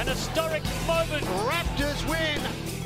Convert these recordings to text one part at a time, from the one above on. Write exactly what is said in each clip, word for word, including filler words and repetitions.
An historic moment. Raptors win.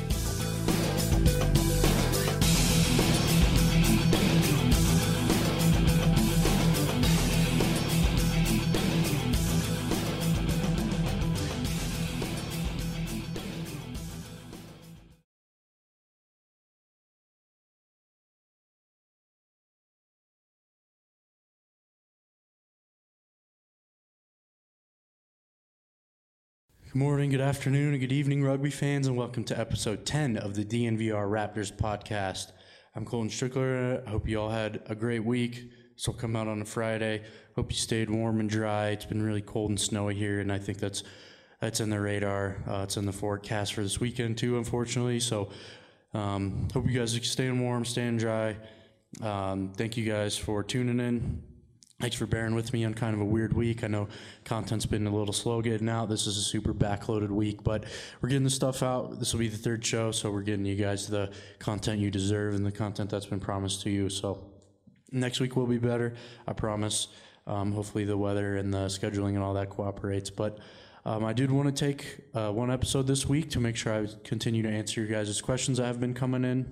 Good morning, good afternoon, and good evening, rugby fans, and welcome to episode ten of the D N V R Raptors podcast. I'm Colton Strickler. I hope you all had a great week. This will come out on a Friday. Hope you stayed warm and dry. It's been really cold and snowy here, and I think that's that's in the radar. Uh, it's in the forecast for this weekend too, unfortunately. So um, hope you guys are staying warm, staying dry. Um, thank you guys for tuning in. Thanks for bearing with me on kind of a weird week. I know content's been a little slow getting out. This is a super backloaded week, but we're getting the stuff out. This will be the third show, so we're getting you guys the content you deserve and the content that's been promised to you. So next week will be better, I promise. Um, hopefully the weather and the scheduling and all that cooperates. But um, I did want to take uh, one episode this week to make sure I continue to answer your guys' questions that have been coming in.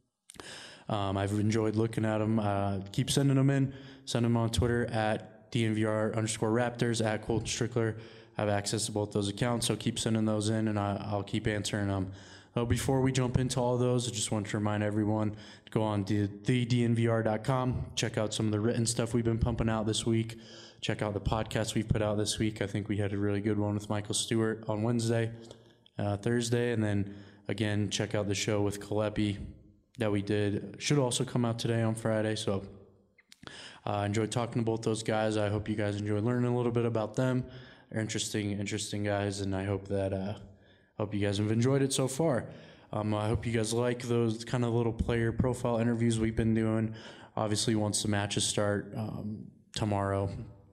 Um, I've enjoyed looking at them. Uh, keep sending them in. Send them on Twitter at D N V R underscore Raptors, at Colton Strickler. I have access to both those accounts, so keep sending those in, and I, I'll keep answering them. Uh, before we jump into all of those, I just want to remind everyone to go on the D N V R dot com, check out some of the written stuff we've been pumping out this week, check out the podcasts we've put out this week. I think we had a really good one with Michael Stewart on Wednesday, uh, Thursday, and then, again, check out the show with Kalepi that we did. Should also come out today on Friday, so I uh, enjoyed talking to both those guys. I hope you guys enjoyed learning a little bit about them. They're interesting, interesting guys, and I hope that uh, hope you guys have enjoyed it so far. Um, I hope you guys like those kind of little player profile interviews we've been doing. Obviously, once the matches start um, tomorrow,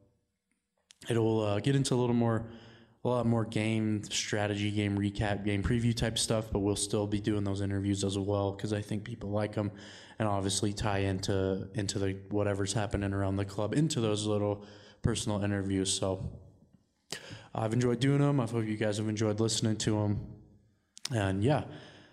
it'll uh, get into a little more, a lot more game strategy, game recap, game preview type stuff, but we'll still be doing those interviews as well because I think people like them, and obviously tie into into the whatever's happening around the club into those little personal interviews. So I've enjoyed doing them. I hope you guys have enjoyed listening to them. And yeah,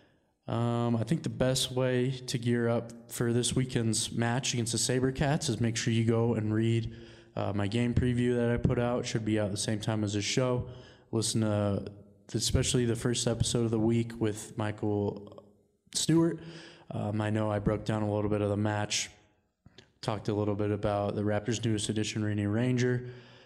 um, I think the best way to gear up for this weekend's match against the SaberCats is make sure you go and read uh, my game preview that I put out. It should be out at the same time as this show. Listen to especially the first episode of the week with Michael Stewart. Um, I know I broke down a little bit of the match, talked a little bit about the Raptors' newest addition, Renee Ranger.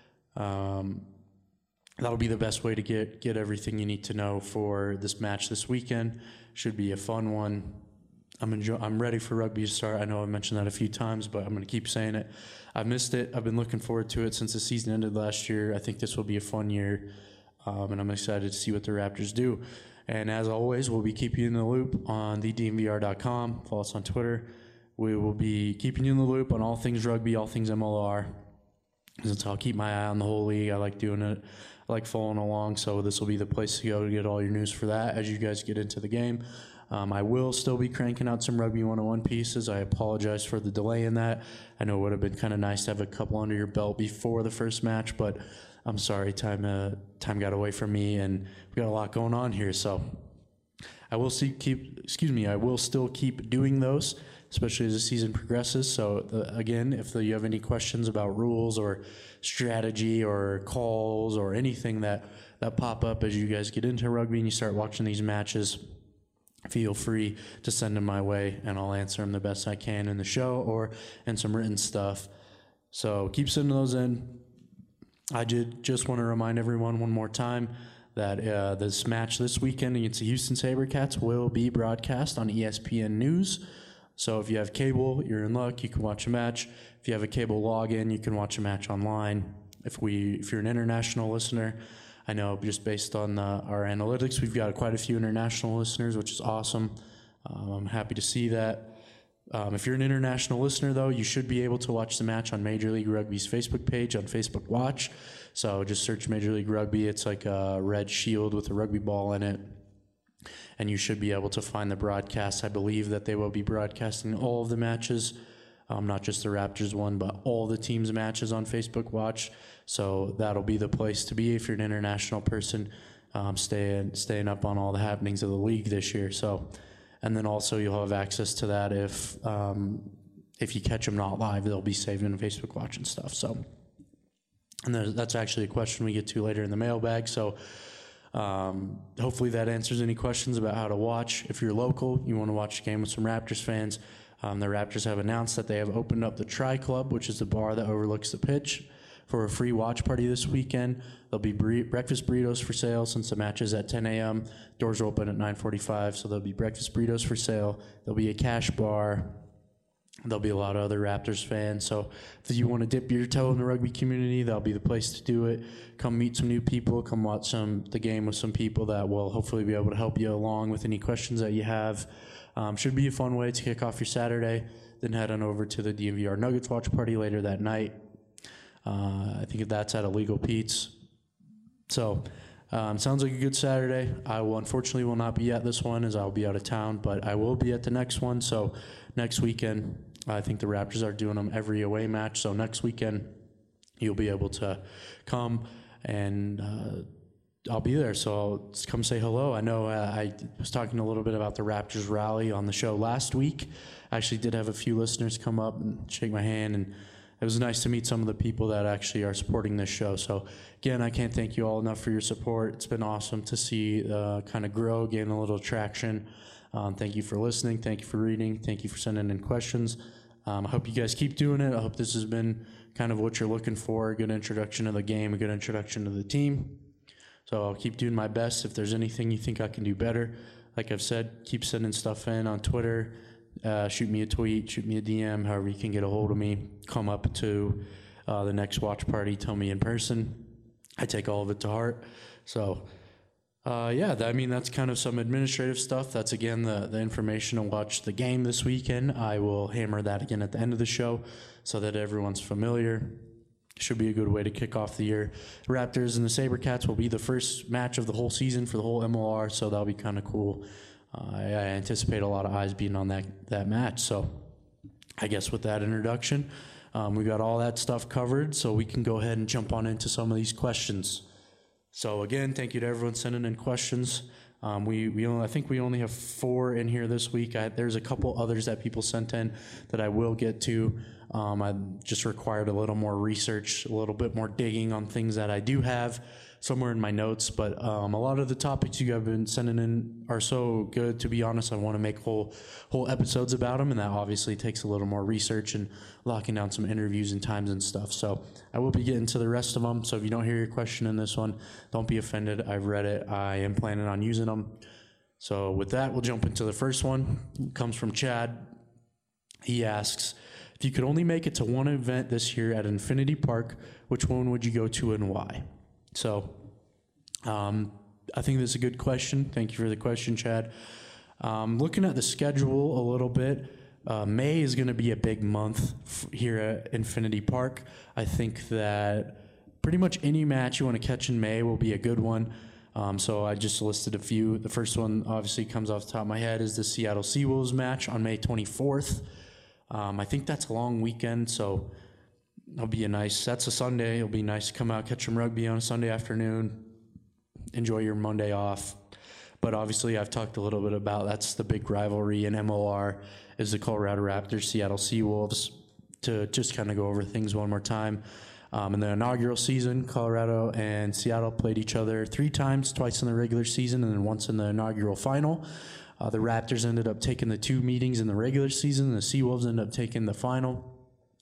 Um, that'll be the best way to get get everything you need to know for this match this weekend. Should be a fun one. I'm enjoy- I'm ready for rugby to start. I know I mentioned that a few times, but I'm going to keep saying it. I've missed it. I've been looking forward to it since the season ended last year. I think this will be a fun year, um, and I'm excited to see what the Raptors do. And as always, we'll be keeping you in the loop on the D N V R dot com. Follow us on Twitter. We will be keeping you in the loop on all things rugby, all things M L R. Since I'll keep my eye on the whole league. I like doing it. I like following along, so this will be the place to go to get all your news for that as you guys get into the game. Um, I will still be cranking out some Rugby one oh one pieces. I apologize for the delay in that. I know it would have been kind of nice to have a couple under your belt before the first match, but I'm sorry, time uh, time got away from me, and we got a lot going on here. So I will see, keep, excuse me, I will still keep doing those, especially as the season progresses. So the, again, if the, you have any questions about rules or strategy or calls or anything that, that pop up as you guys get into rugby and you start watching these matches, feel free to send them my way, and I'll answer them the best I can in the show or in some written stuff. So keep sending those in. I did just want to remind everyone one more time that uh, this match this weekend against the Houston SaberCats will be broadcast on E S P N News. So if you have cable, you're in luck. You can watch a match. If you have a cable login, you can watch a match online. If we, if you're an international listener, I know just based on uh, our analytics, we've got quite a few international listeners, which is awesome. Um, I'm happy to see that. Um, if you're an international listener, though, you should be able to watch the match on Major League Rugby's Facebook page on Facebook Watch. So just search Major League Rugby. It's like a red shield with a rugby ball in it. And you should be able to find the broadcast. I believe that they will be broadcasting all of the matches, um, not just the Raptors one, but all the teams' matches on Facebook Watch. So that'll be the place to be if you're an international person. um, staying staying up on all the happenings of the league this year. So, and then also you'll have access to that if um, if you catch them not live, they'll be saved in Facebook Watch and stuff. So, and that's actually a question we get to later in the mailbag. So. Um, hopefully that answers any questions about how to watch. If you're local, you want to watch a game with some Raptors fans, um, the Raptors have announced that they have opened up the Tri Club, which is the bar that overlooks the pitch, for a free watch party this weekend. There'll be bre- breakfast burritos for sale since the match is at ten a.m. Doors are open at nine forty-five, so there'll be breakfast burritos for sale. There'll be a cash bar. There'll be a lot of other Raptors fans. So if you want to dip your toe in the rugby community, that'll be the place to do it. Come meet some new people. Come watch some the game with some people that will hopefully be able to help you along with any questions that you have. Um, should be a fun way to kick off your Saturday. Then head on over to the D N V R Nuggets watch party later that night. Uh, I think that's at Illegal Pete's. So um, sounds like a good Saturday. I will unfortunately will not be at this one as I'll be out of town, but I will be at the next one. So next weekend, I think the Raptors are doing them every away match. So next weekend, you'll be able to come and uh, I'll be there. So I'll come say hello. I know uh, I was talking a little bit about the Raptors rally on the show last week. I actually did have a few listeners come up and shake my hand, and it was nice to meet some of the people that actually are supporting this show. So again, I can't thank you all enough for your support. It's been awesome to see uh, kind of grow, gain a little traction. Um, thank you for listening. Thank you for reading. Thank you for sending in questions. Um, I hope you guys keep doing it. I hope this has been kind of what you're looking for, a good introduction to the game, a good introduction to the team. So I'll keep doing my best. If there's anything you think I can do better, like I've said, keep sending stuff in on Twitter. Uh, shoot me a tweet, shoot me a D M, however you can get a hold of me. Come up to uh, the next watch party, tell me in person. I take all of it to heart. So, uh, yeah, that, I mean, that's kind of some administrative stuff. That's, again, the, the information to watch the game this weekend. I will hammer that again at the end of the show so that everyone's familiar. Should be a good way to kick off the year. The Raptors and the SaberCats will be the first match of the whole season for the whole M L R, so that'll be kind of cool. Uh, I, I anticipate a lot of eyes being on that, that match. So I guess with that introduction, um, we got all that stuff covered, so we can go ahead and jump on into some of these questions. So again, thank you to everyone sending in questions. Um, we, we only, I think we only have four in here this week. I, there's a couple others that people sent in that I will get to. Um, I just required a little more research, a little bit more digging on things that I do have somewhere in my notes. But um, a lot of the topics you have been sending in are so good. To be honest, I want to make whole whole episodes about them, and that obviously takes a little more research and locking down some interviews and times and stuff. So I will be getting to the rest of them. So if you don't hear your question in this one, don't be offended. I've read it. I am planning on using them. So with that, we'll jump into the first one. It comes from Chad. He asks, if you could only make it to one event this year at Infinity Park, which one would you go to and why? So um, I think that's a good question. Thank you for the question, Chad. Um, looking at the schedule a little bit, uh, May is going to be a big month f- here at Infinity Park. I think that pretty much any match you want to catch in May will be a good one. Um, so I just listed a few. The first one obviously comes off the top of my head is the Seattle Seawolves match on May twenty-fourth. Um, I think that's a long weekend, so it'll be a nice, that's a Sunday. It'll be nice to come out, catch some rugby on a Sunday afternoon, enjoy your Monday off. But obviously I've talked a little bit about that's the big rivalry in M L R is the Colorado Raptors, Seattle Seawolves. To just kind of go over things one more time. Um, in the inaugural season, Colorado and Seattle played each other three times, twice in the regular season and then once in the inaugural final. Uh, the Raptors ended up taking the two meetings in the regular season. The Seawolves ended up taking the final.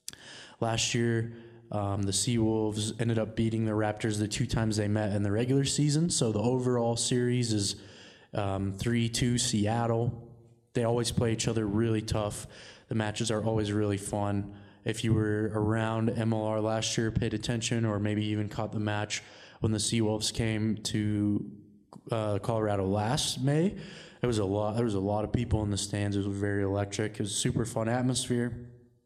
Last year, um, the Seawolves ended up beating the Raptors the two times they met in the regular season. So the overall series is um, three two Seattle. They always play each other really tough. The matches are always really fun. If you were around M L R last year, paid attention, or maybe even caught the match when the Seawolves came to uh, Colorado last May, There was a lot. There was a lot of people in the stands. It was very electric. It was a super fun atmosphere.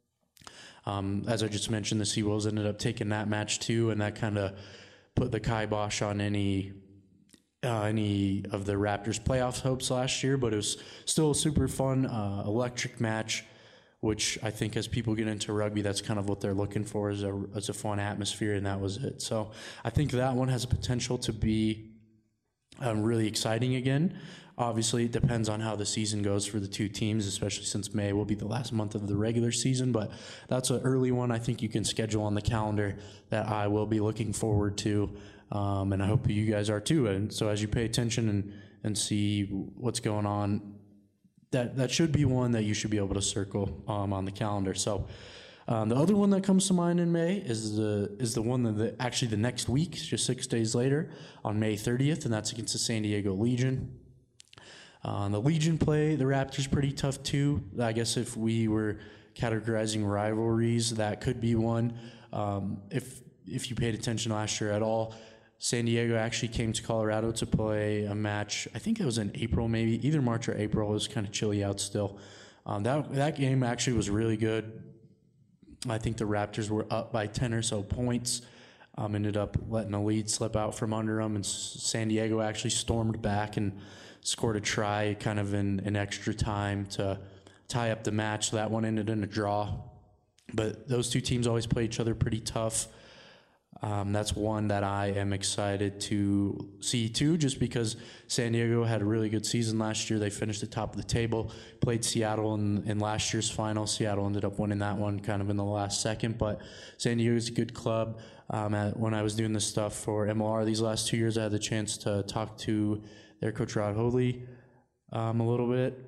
Um, as I just mentioned, the Seawolves ended up taking that match too, and that kind of put the kibosh on any uh, any of the Raptors' playoff hopes last year. But it was still a super fun, uh, electric match, which I think as people get into rugby, that's kind of what they're looking for is a as a fun atmosphere, and that was it. So I think that one has a potential to be um, really exciting again. Obviously, it depends on how the season goes for the two teams, especially since May will be the last month of the regular season. But that's an early one I think you can schedule on the calendar that I will be looking forward to, um, and I hope you guys are too. And so as you pay attention and, and see what's going on, that, that should be one that you should be able to circle um, on the calendar. So um, the other one that comes to mind in May is the is the one that the, actually the next week, just six days later, on May thirtieth, and that's against the San Diego Legion. Uh, the Legion play the Raptors pretty tough too. I guess if we were categorizing rivalries, that could be one. Um, if if you paid attention last year at all, San Diego actually came to Colorado to play a match. I think it was in April, maybe either March or April. It was kind of chilly out still. Um, that that game actually was really good. I think the Raptors were up by ten or so points. Um, ended up letting a lead slip out from under them, and San Diego actually stormed back and scored a try kind of in, in extra time to tie up the match. So that one ended in a draw. But those two teams always play each other pretty tough. Um, that's one that I am excited to see too, just because San Diego had a really good season last year. They finished at the top of the table, played Seattle in, in last year's final. Seattle ended up winning that one kind of in the last second, but San Diego is a good club. Um, at, when I was doing this stuff for M L R these last two years, I had the chance to talk to their coach Rod Hoadley um, a little bit.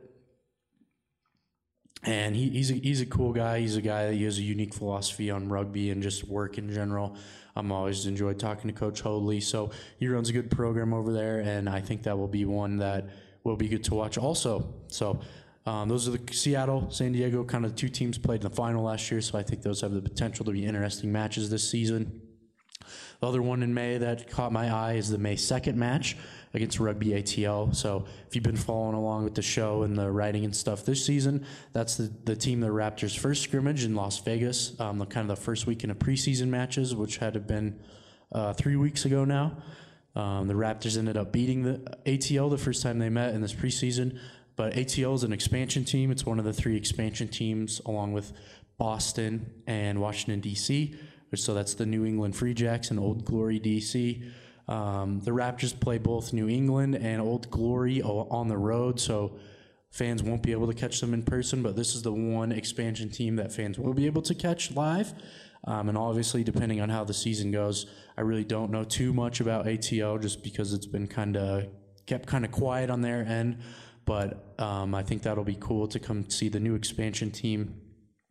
And he, he's, a, he's a cool guy. He's a guy that he has a unique philosophy on rugby and just work in general. I'm always enjoyed talking to Coach Hoadley. So he runs a good program over there, and I think that will be one that will be good to watch also. So um, those are the Seattle, San Diego, kind of the two teams played in the final last year, so I think those have the potential to be interesting matches this season. The other one in May that caught my eye is the May second match against Rugby A T L. So if you've been following along with the show and the writing and stuff this season, that's the, the team, the Raptors' first scrimmage in Las Vegas, um, the kind of the first weekend of preseason matches, which had been uh, three weeks ago now. Um, the Raptors ended up beating the A T L the first time they met in this preseason, but A T L is an expansion team. It's one of the three expansion teams along with Boston and Washington, D C, so that's the New England Free Jacks and Old Glory, D C. Um, the Raptors play both New England and Old Glory on the road, so fans won't be able to catch them in person, but this is the one expansion team that fans will be able to catch live. Um, and obviously, depending on how the season goes, I really don't know too much about A T L just because it's been kind of kept kind of quiet on their end. But um, I think that'll be cool to come see the new expansion team,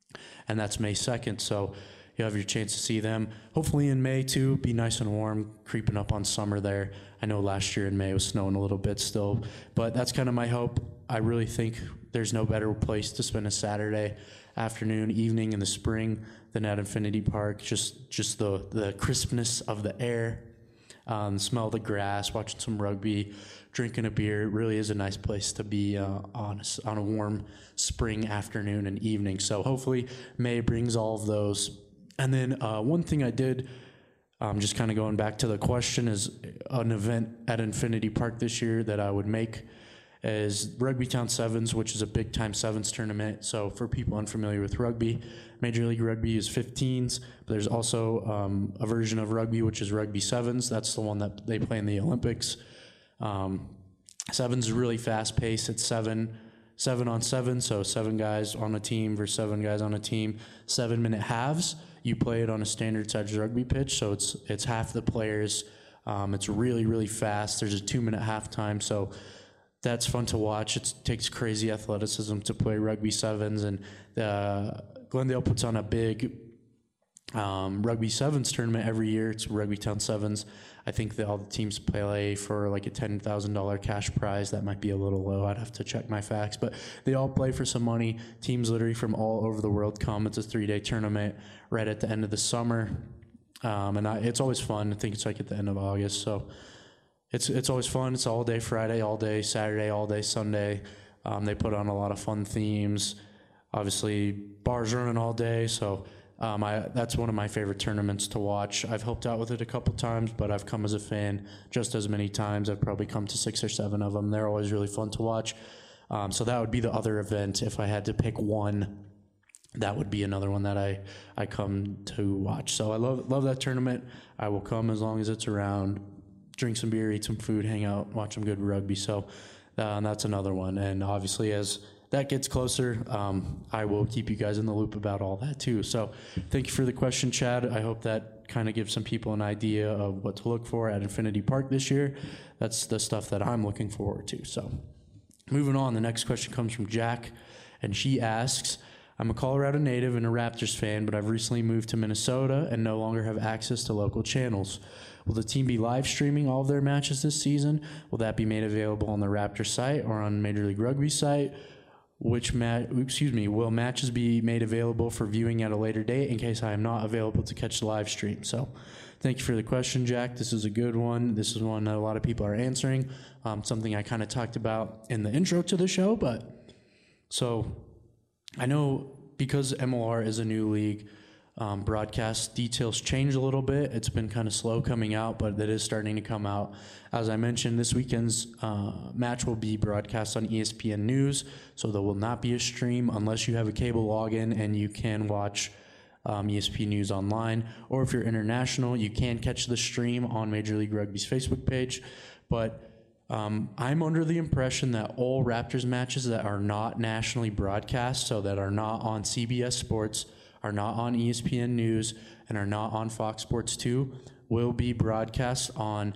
and that's May second. So you have your chance to see them. Hopefully in May too, be nice and warm, creeping up on summer there. I know last year in May it was snowing a little bit still, but that's kind of my hope. I really think there's no better place to spend a Saturday afternoon, evening in the spring than at Infinity Park. Just just the, the crispness of the air, um, smell of the grass, watching some rugby, drinking a beer. It really is a nice place to be uh, on, a, on a warm spring afternoon and evening. So hopefully May brings all of those. And then uh, one thing I did, um, just kind of going back to the question, is an event at Infinity Park this year that I would make is Rugby Town Sevens, which is a big time sevens tournament. So for people unfamiliar with rugby, Major League Rugby is fifteens, but there's also um, a version of rugby, which is Rugby Sevens. That's the one that they play in the Olympics. Um, sevens is really fast paced. It's seven, seven on seven, so seven guys on a team versus seven guys on a team, seven minute halves. You play it on a standard size rugby pitch, so it's it's half the players. Um, it's really, really fast. There's a two-minute halftime, so that's fun to watch. It takes crazy athleticism to play rugby sevens, and uh, Glendale puts on a big um, rugby sevens tournament every year. It's Rugby Town Sevens. I think that all the teams play for like a ten thousand dollars cash prize. That might be a little low. I'd have to check my facts, but they all play for some money. Teams literally from all over the world come. It's a three-day tournament right at the end of the summer, um, and I, it's always fun. I think it's like at the end of August, so it's it's always fun. It's all day Friday, all day Saturday, all day Sunday. Um, they put on a lot of fun themes. Obviously, bars running all day, so Um, I, that's one of my favorite tournaments to watch. I've helped out with it a couple times, but I've come as a fan just as many times. I've probably come to six or seven of them. They're always really fun to watch. Um, so that would be the other event. If I had to pick one, that would be another one that I, I come to watch. So I love love that tournament. I will come as long as it's around. drink some beer, eat some food, hang out, watch some good rugby. So uh, that's another one. And obviously, as that gets closer, um, I will keep you guys in the loop about all that too. So thank you for the question, Chad. I hope that kind of gives some people an idea of what to look for at Infinity Park this year. That's the stuff that I'm looking forward to. So moving on, the next question comes from Jack, and she asks, I'm a Colorado native and a Raptors fan, but I've recently moved to Minnesota and no longer have access to local channels. Will the team be live streaming all of their matches this season? Will that be made available on the Raptors site or on Major League Rugby site? Which ma- excuse me, will matches be made available for viewing at a later date in case I am not available to catch the live stream? So thank you for the question, Jack. This is a good one. This is one that a lot of people are answering. Um, something I kind of talked about in the intro to the show, but so I know because M L R is a new league, um, broadcast details change a little bit. It's been kind of slow coming out, but it is starting to come out. As I mentioned, this weekend's uh, match will be broadcast on E S P N News, so there will not be a stream unless you have a cable login and you can watch um, E S P N News online. Or if you're international, you can catch the stream on Major League Rugby's Facebook page. But Um, I'm under the impression that all Raptors matches that are not nationally broadcast, so that are not on C B S Sports, are not on E S P N News, and are not on Fox Sports two, will be broadcast on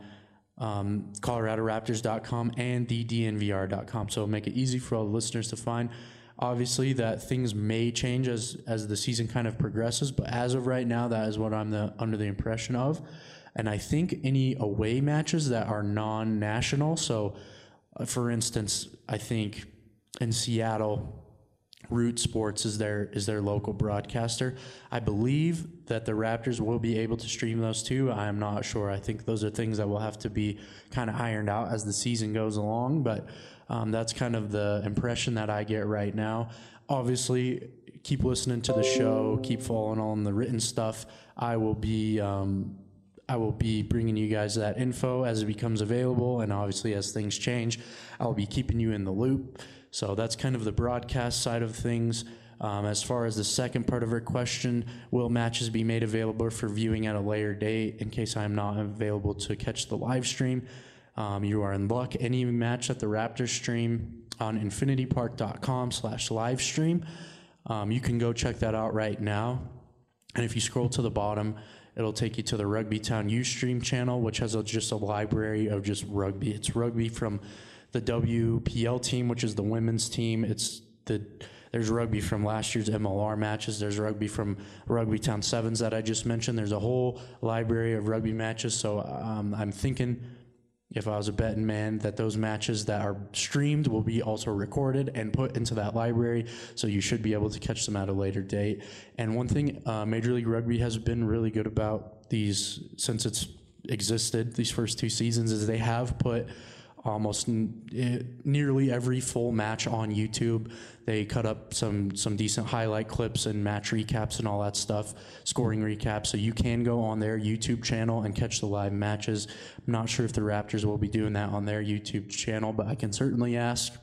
um, Colorado Raptors dot com and the D N V R dot com. So it'll make it easy for all the listeners to find. Obviously, that things may change as as the season kind of progresses, but as of right now, that is what I'm the, under the impression of. And I think any away matches that are non-national, so uh, for instance, I think in Seattle, Root Sports is their is their local broadcaster. I believe that the Raptors will be able to stream those too. I am not sure. I think those are things that will have to be kind of ironed out as the season goes along, but um, that's kind of the impression that I get right now. Obviously, keep listening to the show, keep following on the written stuff. I will be... Um, I will be bringing you guys that info as it becomes available, and obviously as things change, I'll be keeping you in the loop. So that's kind of the broadcast side of things. Um, as far as the second part of her question, will matches be made available for viewing at a later date in case I'm not available to catch the live stream? Um, you are in luck. Any match that the Raptors stream on infinity park dot com slash live stream, um, you can go check that out right now. And if you scroll to the bottom, it'll take you to the Rugby Town Ustream channel, which has a, just a library of just rugby. It's rugby from the W P L team, which is the women's team. It's the there's rugby from last year's M L R matches. There's rugby from Rugby Town Sevens that I just mentioned. There's a whole library of rugby matches. So um, I'm thinking, if I was a betting man, that those matches that are streamed will be also recorded and put into that library, so you should be able to catch them at a later date. And one thing uh, Major League Rugby has been really good about these, since it's existed, these first two seasons, is they have put almost n- nearly every full match on YouTube. They cut up some some decent highlight clips and match recaps and all that stuff, scoring recaps, so you can go on their YouTube channel and catch the live matches. I'm not sure if the Raptors will be doing that on their YouTube channel, but I can certainly ask,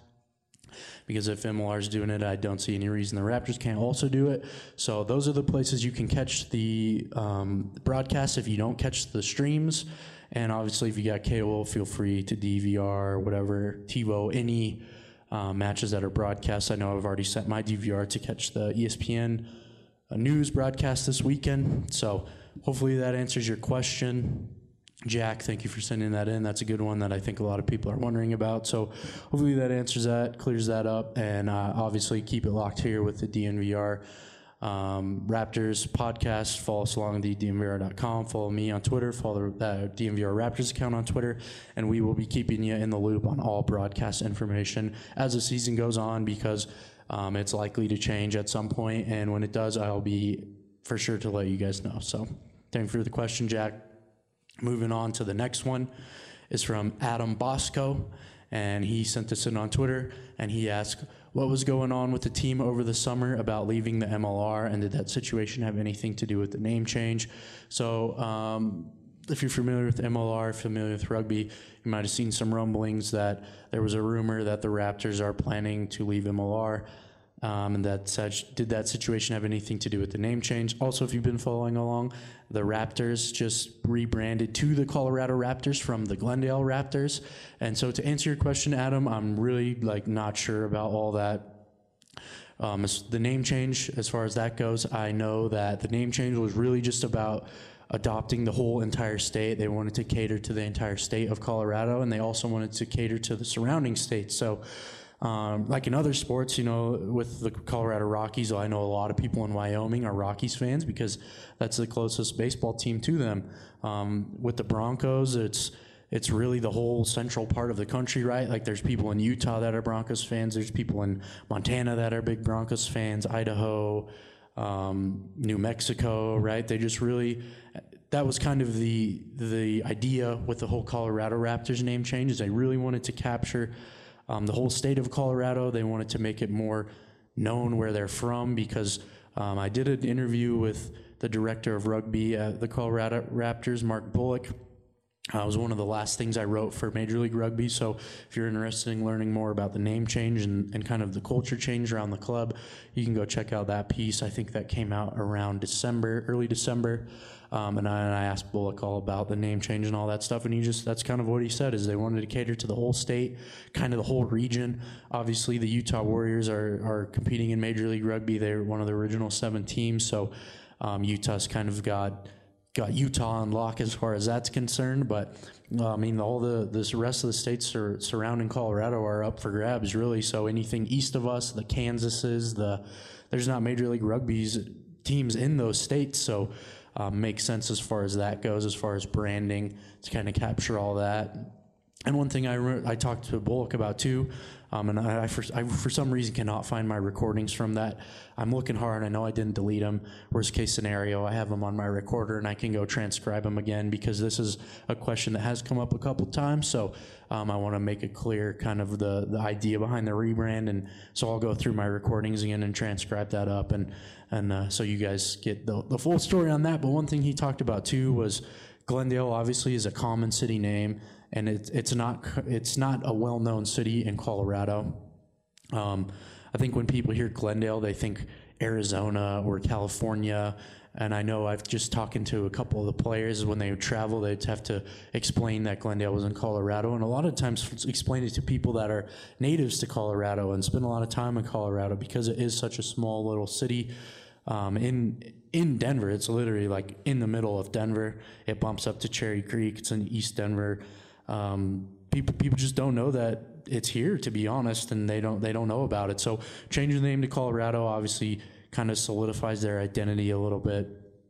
because if M L R is doing it, I don't see any reason the Raptors can't also do it. So those are the places you can catch the um, broadcast if you don't catch the streams. And obviously, if you got cable, feel free to D V R or whatever, TiVo, any uh, matches that are broadcast. I know I've already sent my D V R to catch the E S P N uh, news broadcast this weekend. So hopefully that answers your question. Jack, thank you for sending that in. That's a good one that I think a lot of people are wondering about. So hopefully that answers that, clears that up, and uh, obviously keep it locked here with the D N V R um, Raptors podcast. Follow us along at D N V R dot com. Follow me on Twitter. Follow the uh, D N V R Raptors account on Twitter, and we will be keeping you in the loop on all broadcast information as the season goes on, because um, it's likely to change at some point, and when it does, I'll be for sure to let you guys know. So thank you for the question, Jack. Moving on to the next one is from Adam Bosco, and he sent this in on Twitter, and he asked, what was going on with the team over the summer about leaving the M L R, and did that situation have anything to do with the name change? So um, if you're familiar with M L R, familiar with rugby, you might have seen some rumblings that there was a rumor that the Raptors are planning to leave M L R. Um, and that such, did that situation have anything to do with the name change? Also, if you've been following along, the Raptors just rebranded to the Colorado Raptors from the Glendale Raptors. And so to answer your question, Adam, I'm really like not sure about all that. Um, as the name change, as far as that goes, I know that the name change was really just about adopting the whole entire state. They wanted to cater to the entire state of Colorado, and they also wanted to cater to the surrounding states. So Um, like in other sports, you know, with the Colorado Rockies, I know a lot of people in Wyoming are Rockies fans because that's the closest baseball team to them. Um, with the Broncos, it's it's really the whole central part of the country, right? Like there's people in Utah that are Broncos fans. There's people in Montana that are big Broncos fans, Idaho, um, New Mexico, right? They just really, that was kind of the the idea with the whole Colorado Raptors name change, is they really wanted to capture Um, the whole state of Colorado. They wanted to make it more known where they're from, because um, I did an interview with the director of rugby at the Colorado Raptors, Mark Bullock. Uh, it was one of the last things I wrote for Major League Rugby. So if you're interested in learning more about the name change and, and kind of the culture change around the club, you can go check out that piece. I think that came out around December, early December. Um, and, I, and I asked Bullock all about the name change and all that stuff, and he just, that's kind of what he said, is they wanted to cater to the whole state, kind of the whole region. Obviously, the Utah Warriors are, are competing in Major League Rugby. They're one of the original seven teams, so um, Utah's kind of got got Utah on lock as far as that's concerned, but uh, I mean, all the this rest of the states sur- surrounding Colorado are up for grabs, really. So anything east of us, the Kansases, the there's not Major League Rugby's teams in those states, so Um, makes sense as far as that goes, as far as branding, to kind of capture all that. And one thing I re- I talked to Bullock about too, um, and I, I, for, I for some reason cannot find my recordings from that. I'm looking hard. I know I didn't delete them. Worst case scenario, I have them on my recorder and I can go transcribe them again, because this is a question that has come up a couple times. So um, I want to make it clear kind of the, the idea behind the rebrand. And so I'll go through my recordings again and transcribe that up, and and uh, so you guys get the, the full story on that. But one thing he talked about too was Glendale obviously is a common city name, and it's it's not it's not a well-known city in Colorado. Um, I think when people hear Glendale, they think Arizona or California. And I know I've just talking to a couple of the players, when they would travel, they'd have to explain that Glendale was in Colorado, and a lot of times explain it to people that are natives to Colorado and spend a lot of time in Colorado, because it is such a small little city. Um, in in Denver, it's literally like in the middle of Denver. It bumps up to Cherry Creek. It's in East Denver. Um, people people just don't know that it's here, to be honest, and they don't they don't know about it. So changing the name to Colorado obviously kind of solidifies their identity a little bit.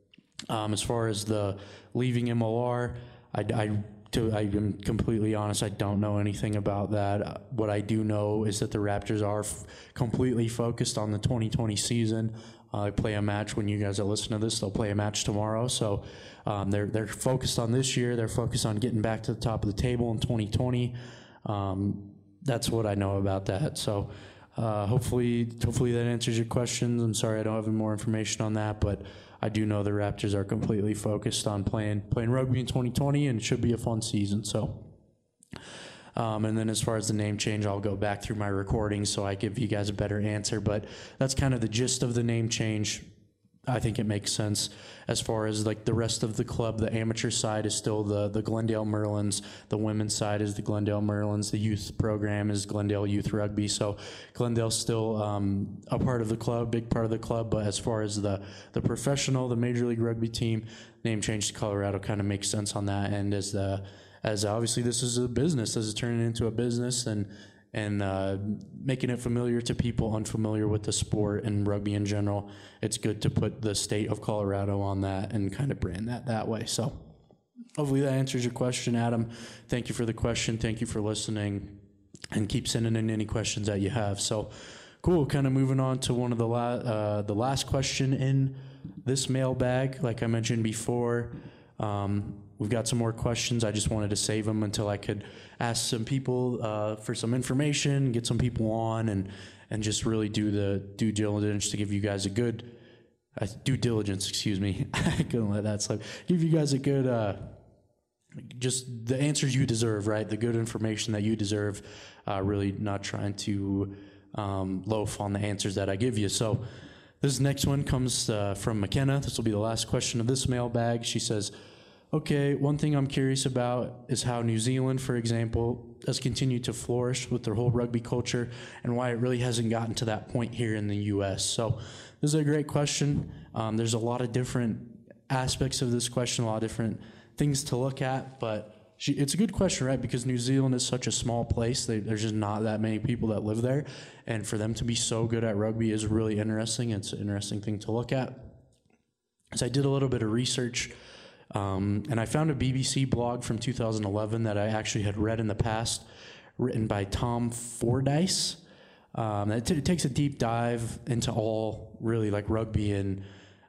Um, as far as the leaving M L R, I, I to I am completely honest, I don't know anything about that. Uh, what I do know is that the Raptors are f- completely focused on the twenty twenty season. Uh, they play a match when you guys are listening to this. They'll play a match tomorrow. So um, they're they're focused on this year. They're focused on getting back to the top of the table in twenty twenty. Um, that's what I know about that. So uh, hopefully, hopefully that answers your questions. I'm sorry I don't have any more information on that, but I do know the Raptors are completely focused on playing playing rugby in twenty twenty, and it should be a fun season. So. Um, and then as far as the name change, I'll go back through my recordings so I give you guys a better answer. But that's kind of the gist of the name change. I think it makes sense. As far as like the rest of the club, the amateur side is still the, the Glendale Merlins. The women's side is the Glendale Merlins. The youth program is Glendale Youth Rugby. So Glendale's still um, a part of the club, big part of the club. But as far as the, the professional, the Major League Rugby team, name change to Colorado kind of makes sense on that end, as the as obviously this is a business, this is turning into a business, and and uh, making it familiar to people unfamiliar with the sport and rugby in general. It's good to put the state of Colorado on that and kind of brand that that way. So hopefully that answers your question, Adam. Thank you for the question. Thank you for listening, and keep sending in any questions that you have. So cool, kind of moving on to one of the, la- uh, the last question in this mailbag. Like I mentioned before, um, we've got some more questions. I just wanted to save them until I could ask some people uh, for some information, get some people on, and and just really do the due diligence to give you guys a good uh, due diligence. Excuse me, I couldn't let that slip. Give you guys a good, uh, just the answers you deserve, right? The good information that you deserve. Uh, really not trying to um, loaf on the answers that I give you. So this next one comes uh, from McKenna. This will be the last question of this mailbag. She says, okay, one thing I'm curious about is how New Zealand, for example, has continued to flourish with their whole rugby culture and why it really hasn't gotten to that point here in the U S. So this is a great question. Um, there's a lot of different aspects of this question, a lot of different things to look at, but she, it's a good question, right? Because New Zealand is such a small place. They, there's just not that many people that live there. And for them to be so good at rugby is really interesting. It's an interesting thing to look at. So I did a little bit of research, um, and I found a B B C blog from two thousand eleven that I actually had read in the past, written by Tom Fordyce. Um, it, t- it takes a deep dive into all really like rugby and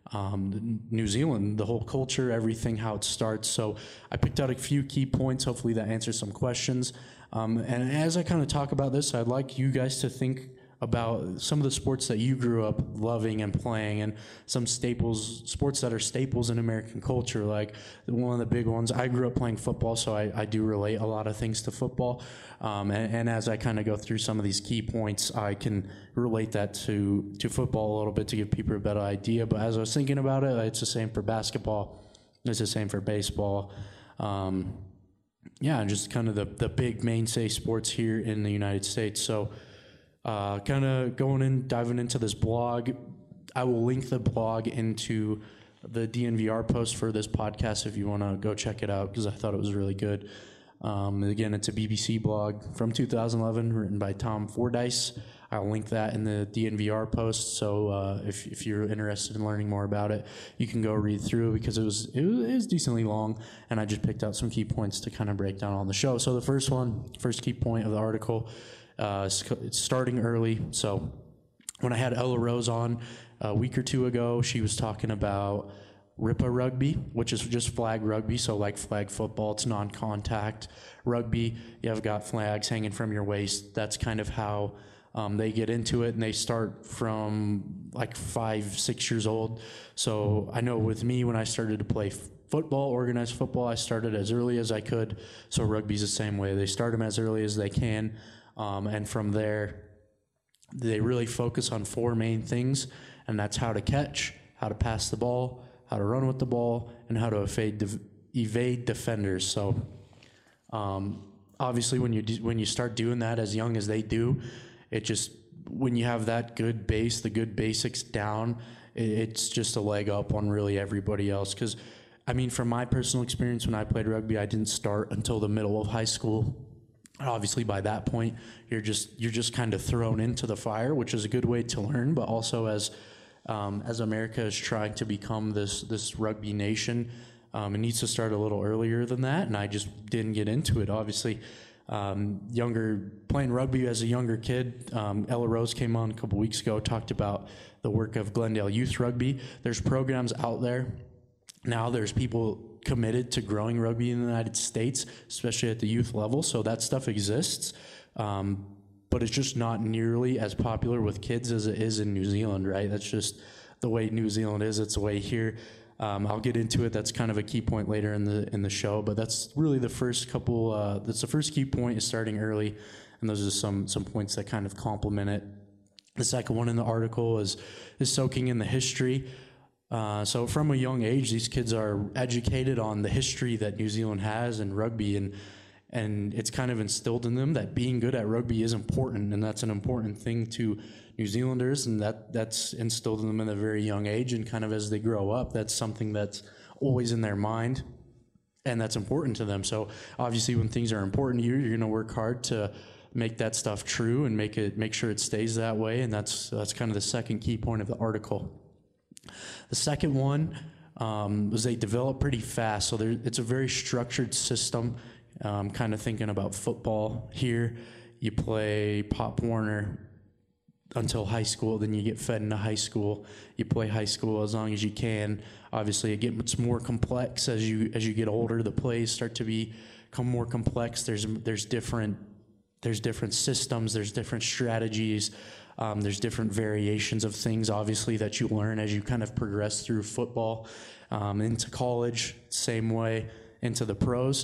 Um, New Zealand, the whole culture, everything, how it starts. So I picked out a few key points. Hopefully that answers some questions. Um, and as I kind of talk about this, I'd like you guys to think about some of the sports that you grew up loving and playing, and some staples, sports that are staples in American culture. Like one of the big ones, I grew up playing football, so I, I do relate a lot of things to football. Um, and, and as I kind of go through some of these key points, I can relate that to, to football a little bit to give people a better idea. But as I was thinking about it, it's the same for basketball. It's the same for baseball. Um, yeah, and just kind of the, the big mainstay sports here in the United States. So uh, kind of going in, diving into this blog, I will link the blog into the D N V R post for this podcast if you want to go check it out, because I thought it was really good. Um, again, it's a B B C blog from two thousand eleven written by Tom Fordyce. I'll link that in the D N V R post, so uh, if, if you're interested in learning more about it, you can go read through, because it was, it was it was decently long, and I just picked out some key points to kind of break down on the show. So the first one, first key point of the article, uh, it's starting early. So when I had Ella Rose on a week or two ago, she was talking about R I P A rugby, which is just flag rugby, so like flag football, it's non-contact rugby. You have got flags hanging from your waist. That's kind of how um, they get into it, and they start from like five, six years old. So I know with me, when I started to play f- football, organized football, I started as early as I could. So rugby's the same way. They start them as early as they can, um, and from there, they really focus on four main things, and that's how to catch, how to pass the ball, how to run with the ball, and how to evade, de- evade defenders. So um, obviously when you do, when you start doing that as young as they do, it just, when you have that good base, the good basics down, it, it's just a leg up on really everybody else. Because, I mean, from my personal experience, when I played rugby, I didn't start until the middle of high school. Obviously, by that point, you're just you're just kind of thrown into the fire, which is a good way to learn, but also as Um, as America is trying to become this this rugby nation, um, it needs to start a little earlier than that, and I just didn't get into it. Obviously, um, younger playing rugby as a younger kid, um, Ella Rose came on a couple weeks ago, talked about the work of Glendale Youth Rugby. There's programs out there now. There's people committed to growing rugby in the United States, especially at the youth level, so that stuff exists. Um, but it's just not nearly as popular with kids as it is in New Zealand, right? That's just the way New Zealand is. It's the way here. Um, I'll get into it. That's kind of a key point later in the in the show, but that's really the first couple, uh, that's the first key point, is starting early, and those are some some points that kind of complement it. The second one in the article is, is soaking in the history. Uh, so from a young age, these kids are educated on the history that New Zealand has in rugby, and And it's kind of instilled in them that being good at rugby is important, and that's an important thing to New Zealanders, and that, that's instilled in them at a very young age, and kind of as they grow up, that's something that's always in their mind, and that's important to them. So obviously when things are important to you, you're going to work hard to make that stuff true and make it make sure it stays that way, and that's that's kind of the second key point of the article. The second one um, was they develop pretty fast, so it's a very structured system. Um, kind of thinking about football here. You play Pop Warner until high school, then you get fed into high school. You play high school as long as you can. Obviously, it gets more complex as you as you get older. The plays start to be, become more complex. There's there's different there's different systems. There's different strategies. Um, there's different variations of things, obviously, that you learn as you kind of progress through football, um, into college, same way, into the pros.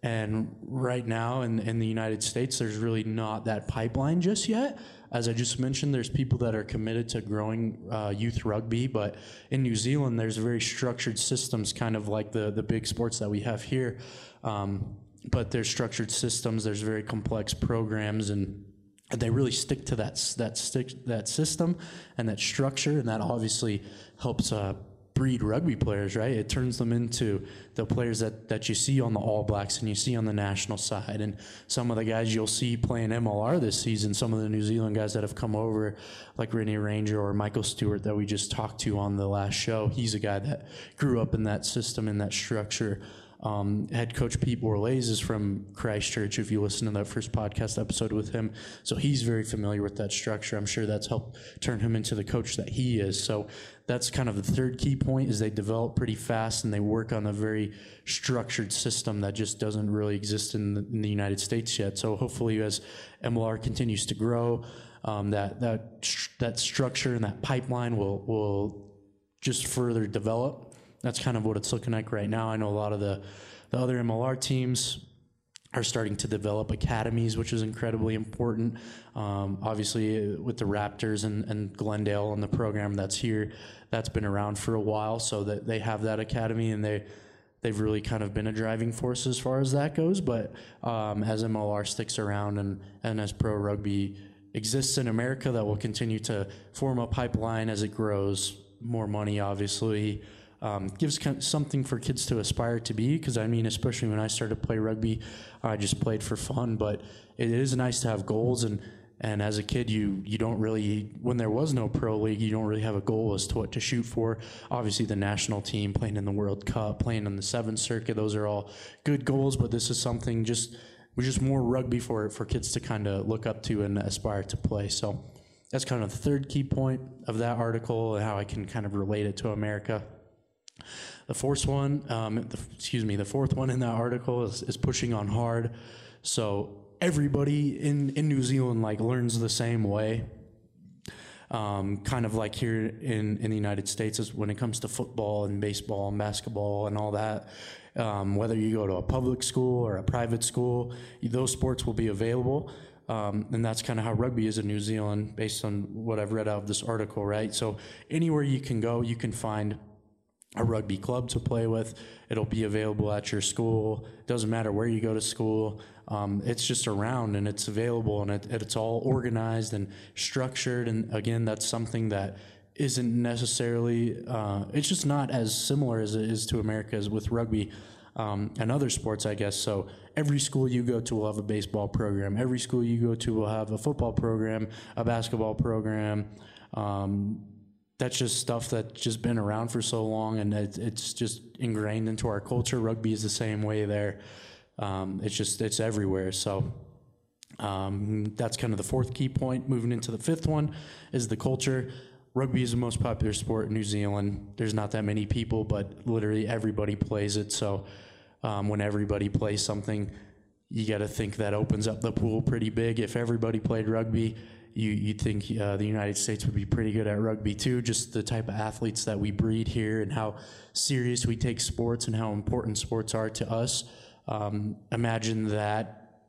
And right now in, in the United States, there's really not that pipeline just yet. As I just mentioned, there's people that are committed to growing uh, youth rugby, but in New Zealand, there's very structured systems, kind of like the, the big sports that we have here. Um, but there's structured systems, there's very complex programs, and they really stick to that that stick that system and that structure, and that obviously helps uh, breed rugby players, right? It turns them into the players that, that you see on the All Blacks and you see on the national side. And some of the guys you'll see playing M L R this season, some of the New Zealand guys that have come over, like Rennie Ranger or Michael Stewart that we just talked to on the last show, he's a guy that grew up in that system, in that structure. Um, head coach Pete Borlase is from Christchurch, if you listen to that first podcast episode with him. So he's very familiar with that structure. I'm sure that's helped turn him into the coach that he is. So that's kind of the third key point, is they develop pretty fast and they work on a very structured system that just doesn't really exist in the, in the United States yet. So hopefully as M L R continues to grow, um, that, that, that structure and that pipeline will, will just further develop. That's kind of what it's looking like right now. I know a lot of the, the other M L R teams are starting to develop academies, which is incredibly important. Um, obviously, with the Raptors and, and Glendale and the program that's here, that's been around for a while, so that they have that academy, and they, they've really kind of been a driving force as far as that goes. But um, as M L R sticks around and, and as pro rugby exists in America, that will continue to form a pipeline as it grows. More money, obviously. Um, gives kind of something for kids to aspire to be, because I mean, especially when I started to play rugby, I just played for fun, but it is nice to have goals, and, and as a kid, you, you don't really, when there was no pro league, you don't really have a goal as to what to shoot for. Obviously the national team, playing in the World Cup, playing in the Seventh Circuit, those are all good goals, but this is something just, we're just more rugby for, for kids to kind of look up to and aspire to play. So that's kind of the third key point of that article, and how I can kind of relate it to America. The fourth one, um, the, excuse me, the fourth one in that article is, is pushing on hard. So everybody in, in New Zealand like learns the same way. Um, kind of like here in, in the United States is when it comes to football and baseball and basketball and all that. Um, whether you go to a public school or a private school, those sports will be available. Um, and that's kind of how rugby is in New Zealand based on what I've read out of this article, right? So anywhere you can go, you can find a rugby club to play with. It'll be available at your school. Doesn't matter where you go to school. Um, it's just around and it's available, and it, it's all organized and structured. And again, that's something that isn't necessarily, uh, it's just not as similar as it is to America as with rugby um, and other sports, I guess. So every school you go to will have a baseball program. Every school you go to will have a football program, a basketball program. Um, That's just stuff that's just been around for so long, and it, it's just ingrained into our culture. Rugby is the same way there. Um, it's just, it's everywhere. So um, that's kind of the fourth key point. Moving into the fifth one is the culture. Rugby is the most popular sport in New Zealand. There's not that many people, but literally everybody plays it. So um, when everybody plays something, you got to think that opens up the pool pretty big. If everybody played rugby, You, you'd think uh, the United States would be pretty good at rugby too, just the type of athletes that we breed here and how serious we take sports and how important sports are to us. Um, imagine that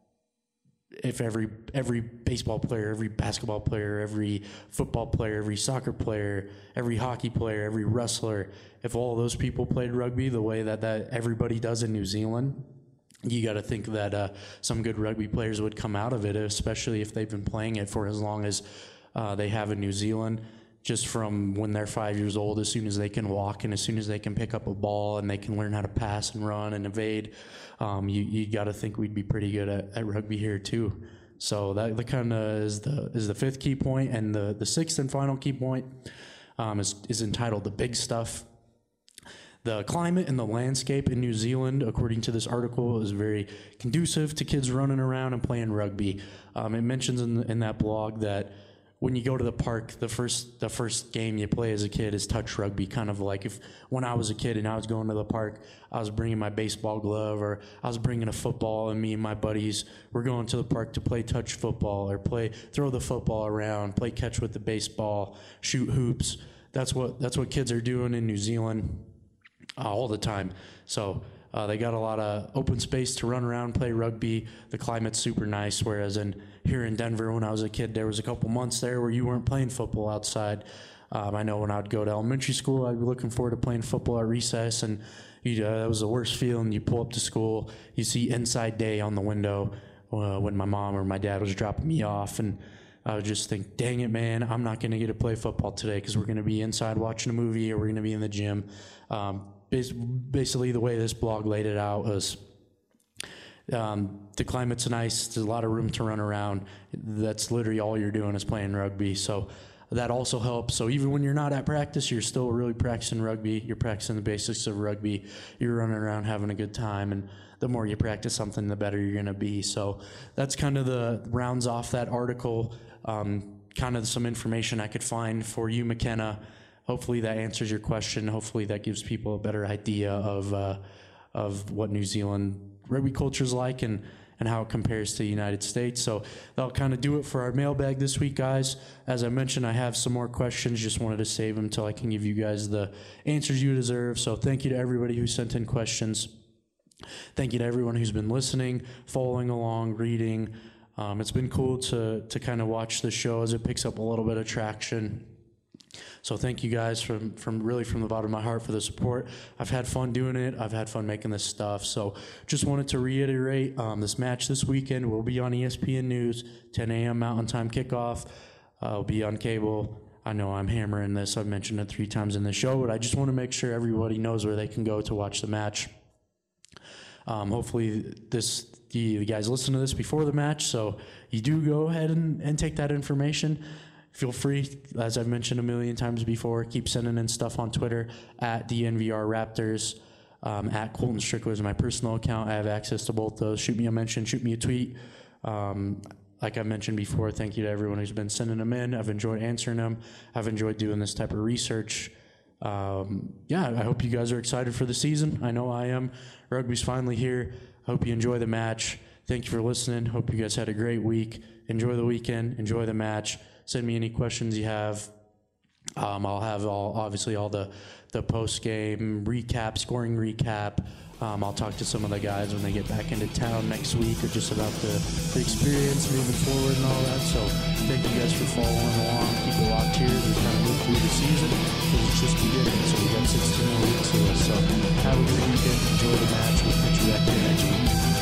if every every baseball player, every basketball player, every football player, every soccer player, every hockey player, every wrestler, if all those people played rugby the way that, that everybody does in New Zealand, you got to think that uh, some good rugby players would come out of it, especially if they've been playing it for as long as uh, they have in New Zealand, just from when they're five years old, as soon as they can walk and as soon as they can pick up a ball and they can learn how to pass and run and evade. Um, you you got to think we'd be pretty good at, at rugby here too. So that, that kind of is the is the fifth key point, and the, the sixth and final key point um, is, is entitled The Big Stuff. The climate and the landscape in New Zealand, according to this article, is very conducive to kids running around and playing rugby. Um, it mentions in, the, in that blog that when you go to the park, the first the first game you play as a kid is touch rugby, kind of like if when I was a kid and I was going to the park, I was bringing my baseball glove or I was bringing a football, and me and my buddies were going to the park to play touch football or play throw the football around, play catch with the baseball, shoot hoops. That's what that's what kids are doing in New Zealand. Uh, all the time. So Uh, they got a lot of open space to run around, play rugby. The climate's super nice, whereas in here in Denver, when I was a kid, there was a couple months there where you weren't playing football outside. Um, I know when I would go to elementary school, I'd be looking forward to playing football at recess, and you, uh, that was the worst feeling. You pull up to school, you see inside day on the window uh, when my mom or my dad was dropping me off, and I would just think, dang it, man, I'm not going to get to play football today because we're going to be inside watching a movie or we're going to be in the gym. Um, basically, the way this blog laid it out was um, the climate's nice. There's a lot of room to run around. That's literally all you're doing is playing rugby. So that also helps. So even when you're not at practice, you're still really practicing rugby. You're practicing the basics of rugby. You're running around having a good time. And the more you practice something, the better you're going to be. So that's kind of the rounds off that article. Um, kind of some information I could find for you, McKenna. Hopefully that answers your question. Hopefully that gives people a better idea of uh, of what New Zealand rugby culture is like and, and how it compares to the United States. So that'll kind of do it for our mailbag this week, guys. As I mentioned, I have some more questions. Just wanted to save them until I can give you guys the answers you deserve. So thank you to everybody who sent in questions. Thank you to everyone who's been listening, following along, reading. Um, it's been cool to to kind of watch the show as it picks up a little bit of traction. So thank you guys from, from really from the bottom of my heart for the support. I've had fun doing it. I've had fun making this stuff. So just wanted to reiterate, um, this match this weekend will be on E S P N News, ten a.m. Mountain Time kickoff. Uh, it'll be on cable. I know I'm hammering this. I've mentioned it three times in the show, but I just want to make sure everybody knows where they can go to watch the match. Um, hopefully this the, the guys listen to this before the match, so you do go ahead and, and take that information. Feel free, as I've mentioned a million times before, keep sending in stuff on Twitter at D N V R Raptors, um, at Colton Strickler is my personal account. I have access to both those. Shoot me a mention, shoot me a tweet. Um, like I mentioned before, thank you to everyone who's been sending them in. I've enjoyed answering them. I've enjoyed doing this type of research. Um, yeah, I hope you guys are excited for the season. I know I am. Rugby's finally here. I hope you enjoy the match. Thank you for listening. Hope you guys had a great week. Enjoy the weekend. Enjoy the match. Send me any questions you have. Um, I'll have all obviously all the, the post-game recap, scoring recap. Um, I'll talk to some of the guys when they get back into town next week, or just about the, the experience moving forward and all that. So thank you guys for following along. Keep it locked here as we kind of move through the season, because it's just beginning. So we got sixteen more weeks of this. So have a good weekend. Enjoy the match. We'll catch you back here next week.